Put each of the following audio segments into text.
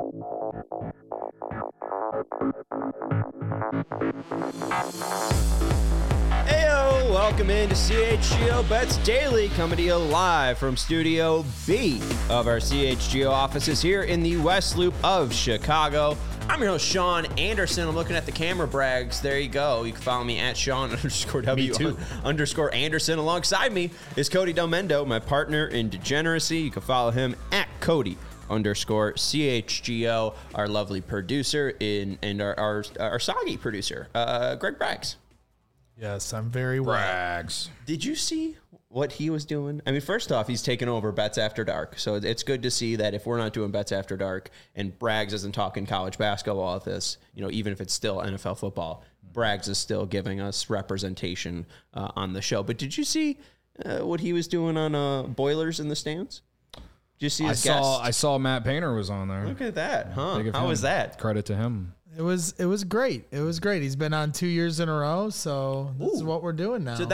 Heyo, welcome into CHGO Bets Daily, coming to you live from Studio B of our CHGO offices here in the West Loop of Chicago. I'm your host, Sean Anderson. I'm looking at the camera brags. There you go. You can follow me at Sean_W_Anderson. Alongside me is Cody Delmendo, my partner in degeneracy. You can follow him at Cody_CHGO, our lovely producer and our soggy producer, Greg Braggs. Yes, I'm very well. Brags. Did you see what he was doing? I mean, first off, he's taken over Bets After Dark. So it's good to see that if we're not doing Bets After Dark and Braggs isn't talking college basketball at this, even if it's still NFL football, Braggs is still giving us representation on the show. But did you see what he was doing on Boilers in the Stands? Did you see his guest? I saw Matt Painter was on there. Look at that, huh? How was that? Credit to him. It was great. It was great. He's been on 2 years in a row, so this is what we're doing now.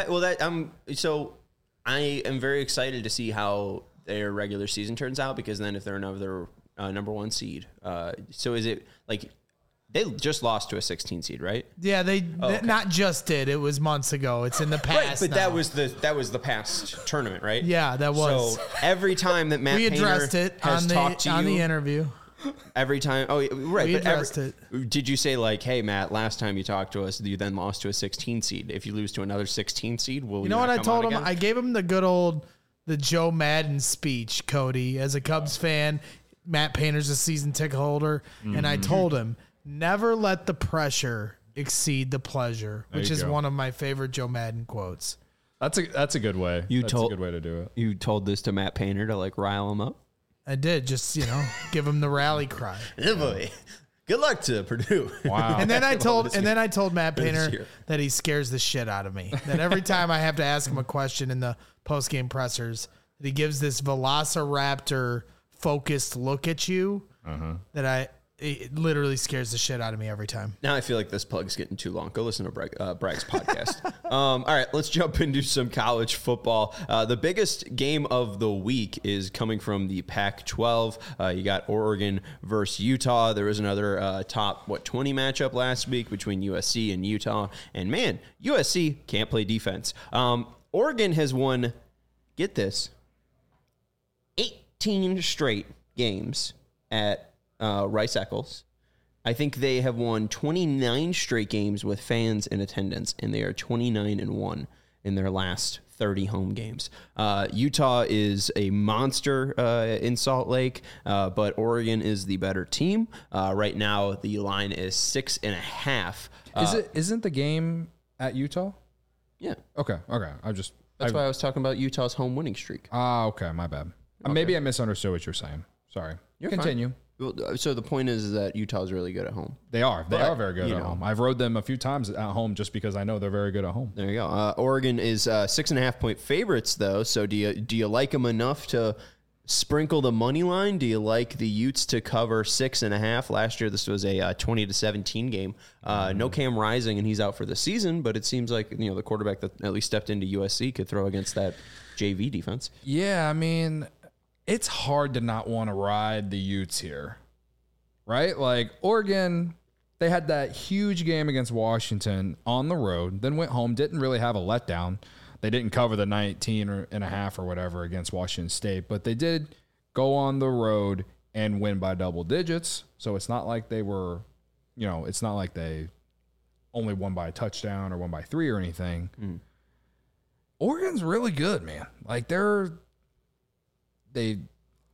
So I am very excited to see how their regular season turns out, because then if they're another number one seed, so is it like they just lost to a 16 seed, right? Yeah, they not just did. It was months ago. It's in the past. Right, but now. that was the past tournament, right? Yeah, that was. So every time that Matt we Painter addressed it has talked to you on the interview. Every time, right. We addressed it. Did you say like, "Hey, Matt, last time you talked to us, you then lost to a 16 seed. If you lose to another 16 seed, will you know what I told him? Again? I gave him the good the Joe Madden speech, Cody, as a Cubs fan. Matt Painter's a season ticket holder, and I told him never let the pressure exceed the pleasure, which is one of my favorite Joe Madden quotes. That's a good way. That's a good way to do it. You told this to Matt Painter to like rile him up. I did, just, give him the rally cry. Yeah, boy. Good luck to Purdue. Wow. And then I told Matt Painter that he scares the shit out of me. That every time I have to ask him a question in the post-game pressers, that he gives this Velociraptor focused look at you that it literally scares the shit out of me every time. Now I feel like this plug's getting too long. Go listen to Bragg's podcast. All right, let's jump into some college football. The biggest game of the week is coming from the Pac-12. You got Oregon versus Utah. There was another top 20 matchup last week between USC and Utah. And man, USC can't play defense. Oregon has won, get this, 18 straight games at Rice-Eccles. I think they have won 29 straight games with fans in attendance, and they are 29-1 in their last 30 home games. Utah is a monster in Salt Lake, but Oregon is the better team. Right now, the line is 6.5. Isn't the game at Utah? Yeah. Okay. That's why I was talking about Utah's home winning streak. Okay. My bad. Okay. Maybe I misunderstood what you're saying. Sorry. Continue. Fine. So the point is that Utah's really good at home. They are very good at home. I've rode them a few times at home just because I know they're very good at home. There you go. Oregon is 6.5 point favorites though. So do you like them enough to sprinkle the money line? Do you like the Utes to cover 6.5? Last year this was a 20-17 game. No Cam Rising, and he's out for the season. But it seems like the quarterback that at least stepped into USC could throw against that JV defense. Yeah, I mean, it's hard to not want to ride the Utes here, right? Like Oregon, they had that huge game against Washington on the road, then went home, didn't really have a letdown. They didn't cover the 19.5 or whatever against Washington State, but they did go on the road and win by double digits. So it's not like they were, it's not like they only won by a touchdown or won by 3 or anything. Oregon's really good, man. Like they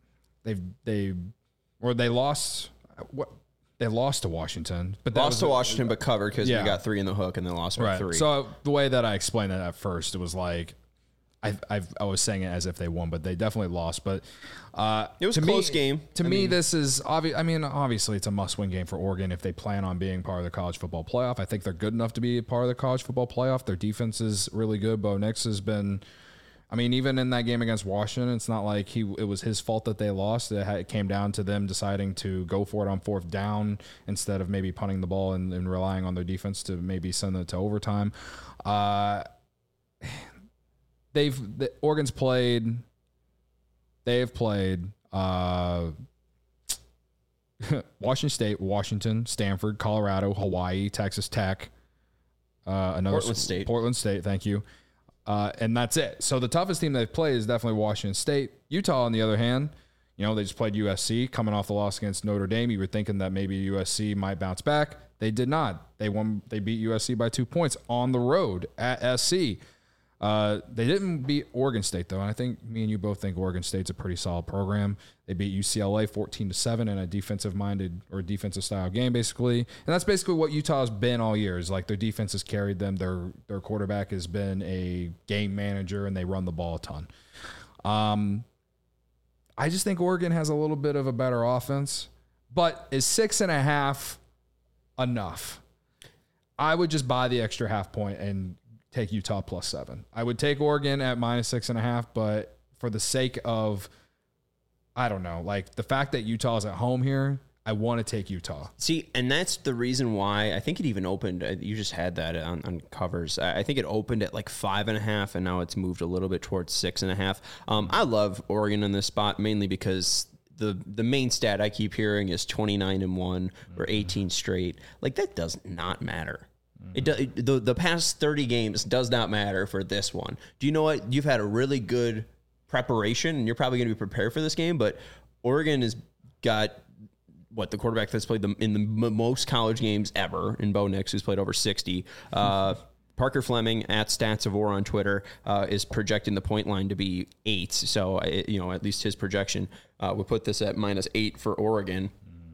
lost to Washington, but but covered because we got 3 in the hook and then lost by 3. So the way that I explained it at first, it was like I was saying it as if they won, but they definitely lost. But it was a close game. To me, this is obvious. I mean, obviously, it's a must-win game for Oregon if they plan on being part of the college football playoff. I think they're good enough to be part of the college football playoff. Their defense is really good. Bo Nix has been. I mean, even in that game against Washington, it's not like it was his fault that they lost. It came down to them deciding to go for it on 4th down instead of maybe punting the ball and relying on their defense to maybe send it to overtime. Oregon's played. They've played Washington State, Washington, Stanford, Colorado, Hawaii, Texas Tech, Portland State. Thank you. And that's it. So the toughest team they've played is definitely Washington State. Utah, on the other hand, they just played USC coming off the loss against Notre Dame. You were thinking that maybe USC might bounce back. They did not. They beat USC by 2 points on the road at SC. They didn't beat Oregon State, though. And I think me and you both think Oregon State's a pretty solid program. They beat UCLA 14-7 in a defensive-minded or defensive-style game, basically. And that's basically what Utah's been all year, is like their defense has carried them. Their quarterback has been a game manager, and they run the ball a ton. I just think Oregon has a little bit of a better offense. But is 6.5 enough? I would just buy the extra half point and take Utah +7. I would take Oregon at -6.5, but for the sake of, I don't know, like the fact that Utah is at home here, I want to take Utah. See, and that's the reason why I think it even opened. You just had that on covers. I think it opened at like 5.5, and now it's moved a little bit towards 6.5. I love Oregon in this spot mainly because the main stat I keep hearing is 29-1 or 18 straight. Like that does not matter. The past 30 games does not matter for this one. Do you know what? You've had a really good preparation, and you're probably going to be prepared for this game, but Oregon has got the quarterback that's played in the most college games ever in Bo Nix, who's played over 60. Parker Fleming at Stats of on Twitter is projecting the point line to be 8. So, at least his projection would put this at -8 for Oregon.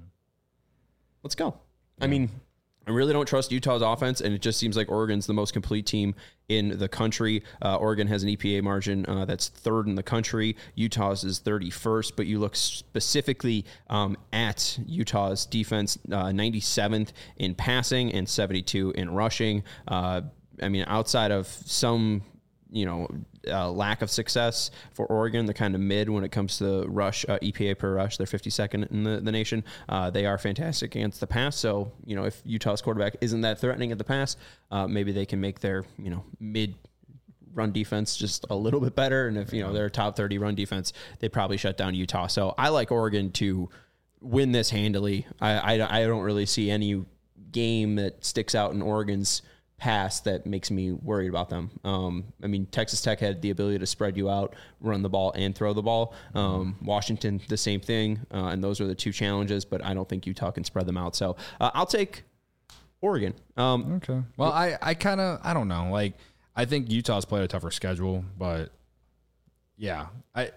Let's go. Yeah. I mean, I really don't trust Utah's offense, and it just seems like Oregon's the most complete team in the country. Oregon has an EPA margin that's 3rd in the country. Utah's is 31st, but you look specifically at Utah's defense, 97th in passing and 72 in rushing. Outside of some, lack of success for Oregon, they're kind of mid when it comes to rush, EPA per rush. They're 52nd in the nation. They are fantastic against the pass. So, if Utah's quarterback isn't that threatening at the pass, maybe they can make their, mid run defense just a little bit better. And if, they're a top 30 run defense, they probably shut down Utah. So I like Oregon to win this handily. I don't really see any game that sticks out in Oregon's pass that makes me worried about them. Texas Tech had the ability to spread you out, run the ball, and throw the ball. Washington, the same thing, and those are the two challenges, but I don't think Utah can spread them out. So I'll take Oregon. Okay. Well, I don't know. Like, I think Utah's played a tougher schedule, but yeah. But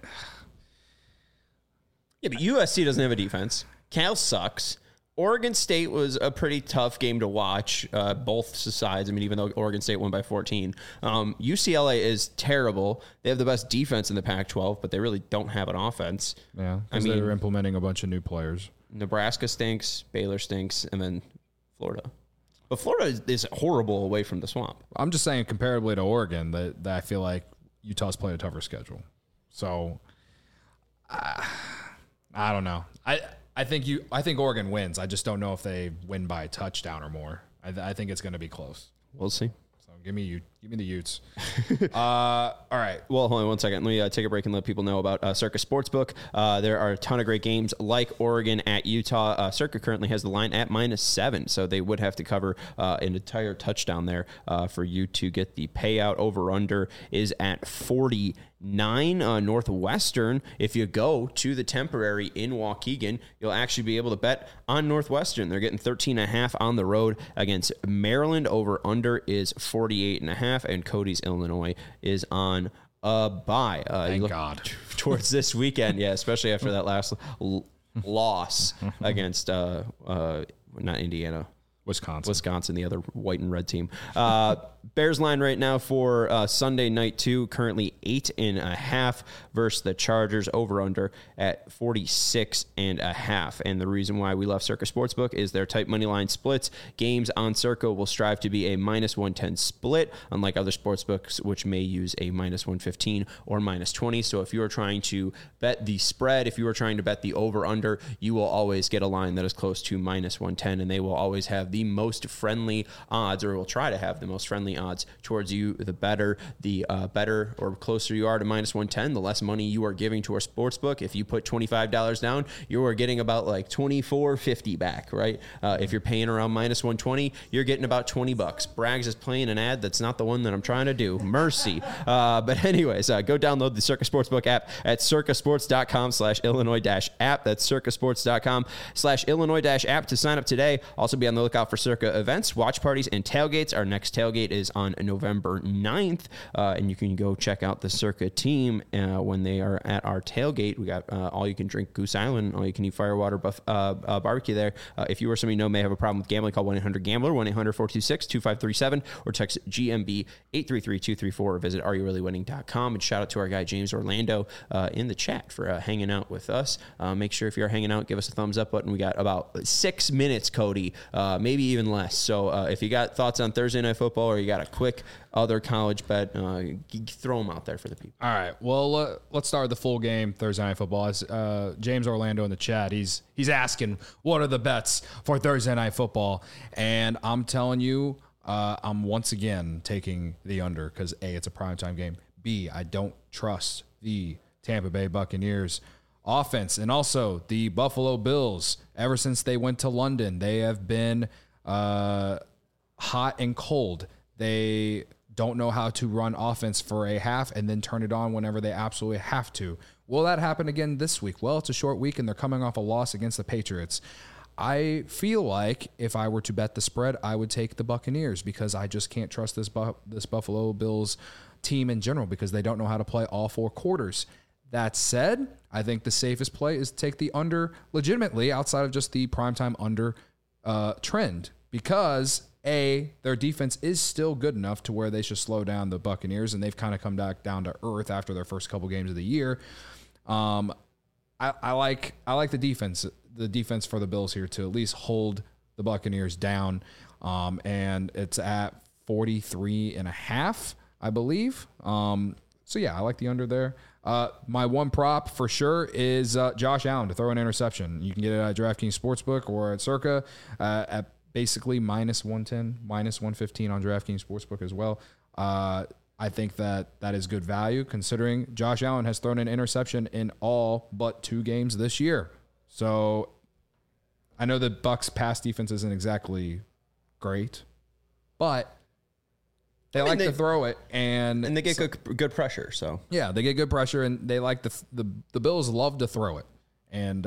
USC doesn't have a defense. Cal sucks. Oregon State was a pretty tough game to watch, both sides. Even though Oregon State won by 14. UCLA is terrible. They have the best defense in the Pac-12, but they really don't have an offense. Yeah, because they're implementing a bunch of new players. Nebraska stinks, Baylor stinks, and then Florida. But Florida is horrible away from the swamp. I'm just saying, comparably to Oregon, that I feel like Utah's played a tougher schedule. So, I don't know. I think Oregon wins. I just don't know if they win by a touchdown or more. I think it's going to be close. We'll see. So give me the Utes. All right. Well, hold on 1 second. Let me take a break and let people know about Circa Sportsbook. There are a ton of great games like Oregon at Utah. Circa currently has the line at -7, so they would have to cover an entire touchdown there for you to get the payout. Over/under is at 49. Northwestern, if you go to the Temporary in Waukegan, you'll actually be able to bet on Northwestern. They're getting 13.5 on the road against Maryland. Over/under is 48.5, and Cody's Illinois is on a bye. Thank God. Towards this weekend, yeah, especially after that last loss against not Indiana. Wisconsin, the other white and red team. Bears line right now for Sunday night 2, currently 8.5 versus the Chargers. Over/under at 46.5. And the reason why we love Circa Sportsbook is their tight money line splits. Games on Circa will strive to be a -110 split, unlike other sportsbooks, which may use a -115 or -20. So if you are trying to bet the spread, if you are trying to bet the over/under, you will always get a line that is close to -110, and they will always have the most friendly odds, or will try to have the most friendly odds towards you. The better or closer you are to minus 110, the less money you are giving to our sportsbook. If you put $25 down, you are getting about like $24.50 back, right? If you're paying around minus 120, you're getting about $20. Braggs is playing an ad that's not the one that I'm trying to do. Mercy. But anyways, go download the Circa Sportsbook app at circasports.com/Illinois-app. That's circasports.com/Illinois-app to sign up today. Also be on the lookout for Circa events, watch parties, and tailgates. Our next tailgate is on November 9th, and you can go check out the Circa team when they are at our tailgate. We got all-you-can-drink Goose Island, all-you-can-eat firewater barbecue there. If you or somebody you know may have a problem with gambling, call 1-800-GAMBLER, 1-800-426-2537, or text GMB 833-234, or visit areyourreallywinning.com. And shout out to our guy James Orlando in the chat for hanging out with us. Make sure if you're hanging out, give us a thumbs up button. We got about 6 minutes, Cody, maybe even less. So if you got thoughts on Thursday Night Football, or you got a quick other college bet, throw them out there for the people. All right. Well, let's start with the full game Thursday Night Football. As James Orlando in the chat, he's asking, what are the bets for Thursday Night Football? And I'm telling you, I'm once again taking the under because A, it's a primetime game. B, I don't trust the Tampa Bay Buccaneers offense. And also the Buffalo Bills, ever since they went to London, they have been hot and cold. They don't know how to run offense for a half and then turn it on whenever they absolutely have to. Will that happen again this week? Well, it's a short week and they're coming off a loss against the Patriots. I feel like if I were to bet the spread, I would take the Buccaneers because I just can't trust this Buffalo Bills team in general because they don't know how to play all 4 quarters. That said, I think the safest play is to take the under legitimately outside of just the primetime under trend because A, their defense is still good enough to where they should slow down the Buccaneers, and they've kind of come back down to earth after their first couple games of the year. I like the defense for the Bills here to at least hold the Buccaneers down, and it's at 43.5, I believe. So yeah, I like the under there. My one prop for sure is Josh Allen to throw an interception. You can get it at DraftKings Sportsbook or at Circa at basically minus 110, minus 115 on DraftKings Sportsbook as well. I think that is good value considering Josh Allen has thrown an interception in all but 2 games this year. So I know the Bucs pass defense isn't exactly great, but they like to throw it, and they get good pressure. So yeah, they get good pressure, and they like the Bills love to throw it, and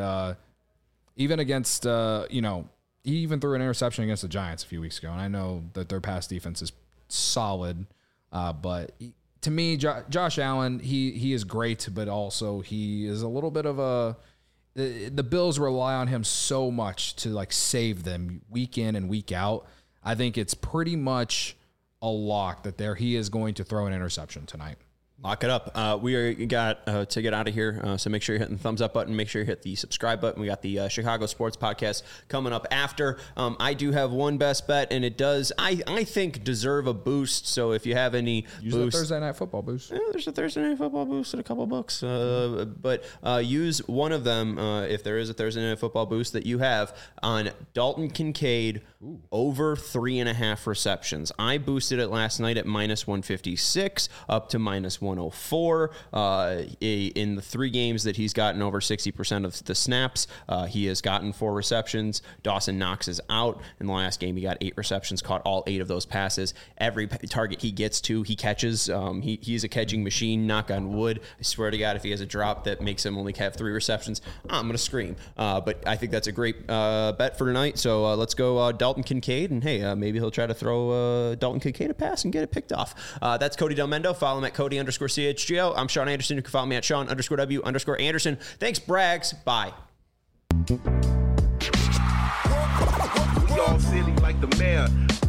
even against he even threw an interception against the Giants a few weeks ago, and I know that their pass defense is solid, but to me, Josh Allen he is great, but also he is a little bit of the Bills rely on him so much to like save them week in and week out. I think it's pretty much a lock that he is going to throw an interception tonight. Lock it up. We got to get out of here, so make sure you're hitting the thumbs up button. Make sure you hit the subscribe button. We got the Chicago Sports Podcast coming up after. I do have one best bet, and it does, I think, deserve a boost. So if you have any use the Thursday Night Football boost. Yeah, there's a Thursday Night Football boost at a couple bucks. But use one of them if there is a Thursday Night Football boost that you have on Dalton Kincaid over 3.5 receptions. I boosted it last night at minus 156 up to minus 104. In the 3 games that he's gotten over 60% of the snaps, he has gotten 4 receptions. Dawson Knox is out. In the last game, he got 8 receptions, caught all 8 of those passes. Every target he gets to, he catches. He's a catching machine, knock on wood. I swear to God, if he has a drop that makes him only have 3 receptions, I'm going to scream. But I think that's a great bet for tonight. So let's go Dalton Kincaid, and hey, maybe he'll try to throw Dalton Kincaid a pass and get it picked off. That's Cody Del Mendo. Follow him at Cody_CHGO. I'm Sean Anderson. You can follow me at Sean_W_Anderson. Thanks, Braggs. Bye. We all silly like the mayor.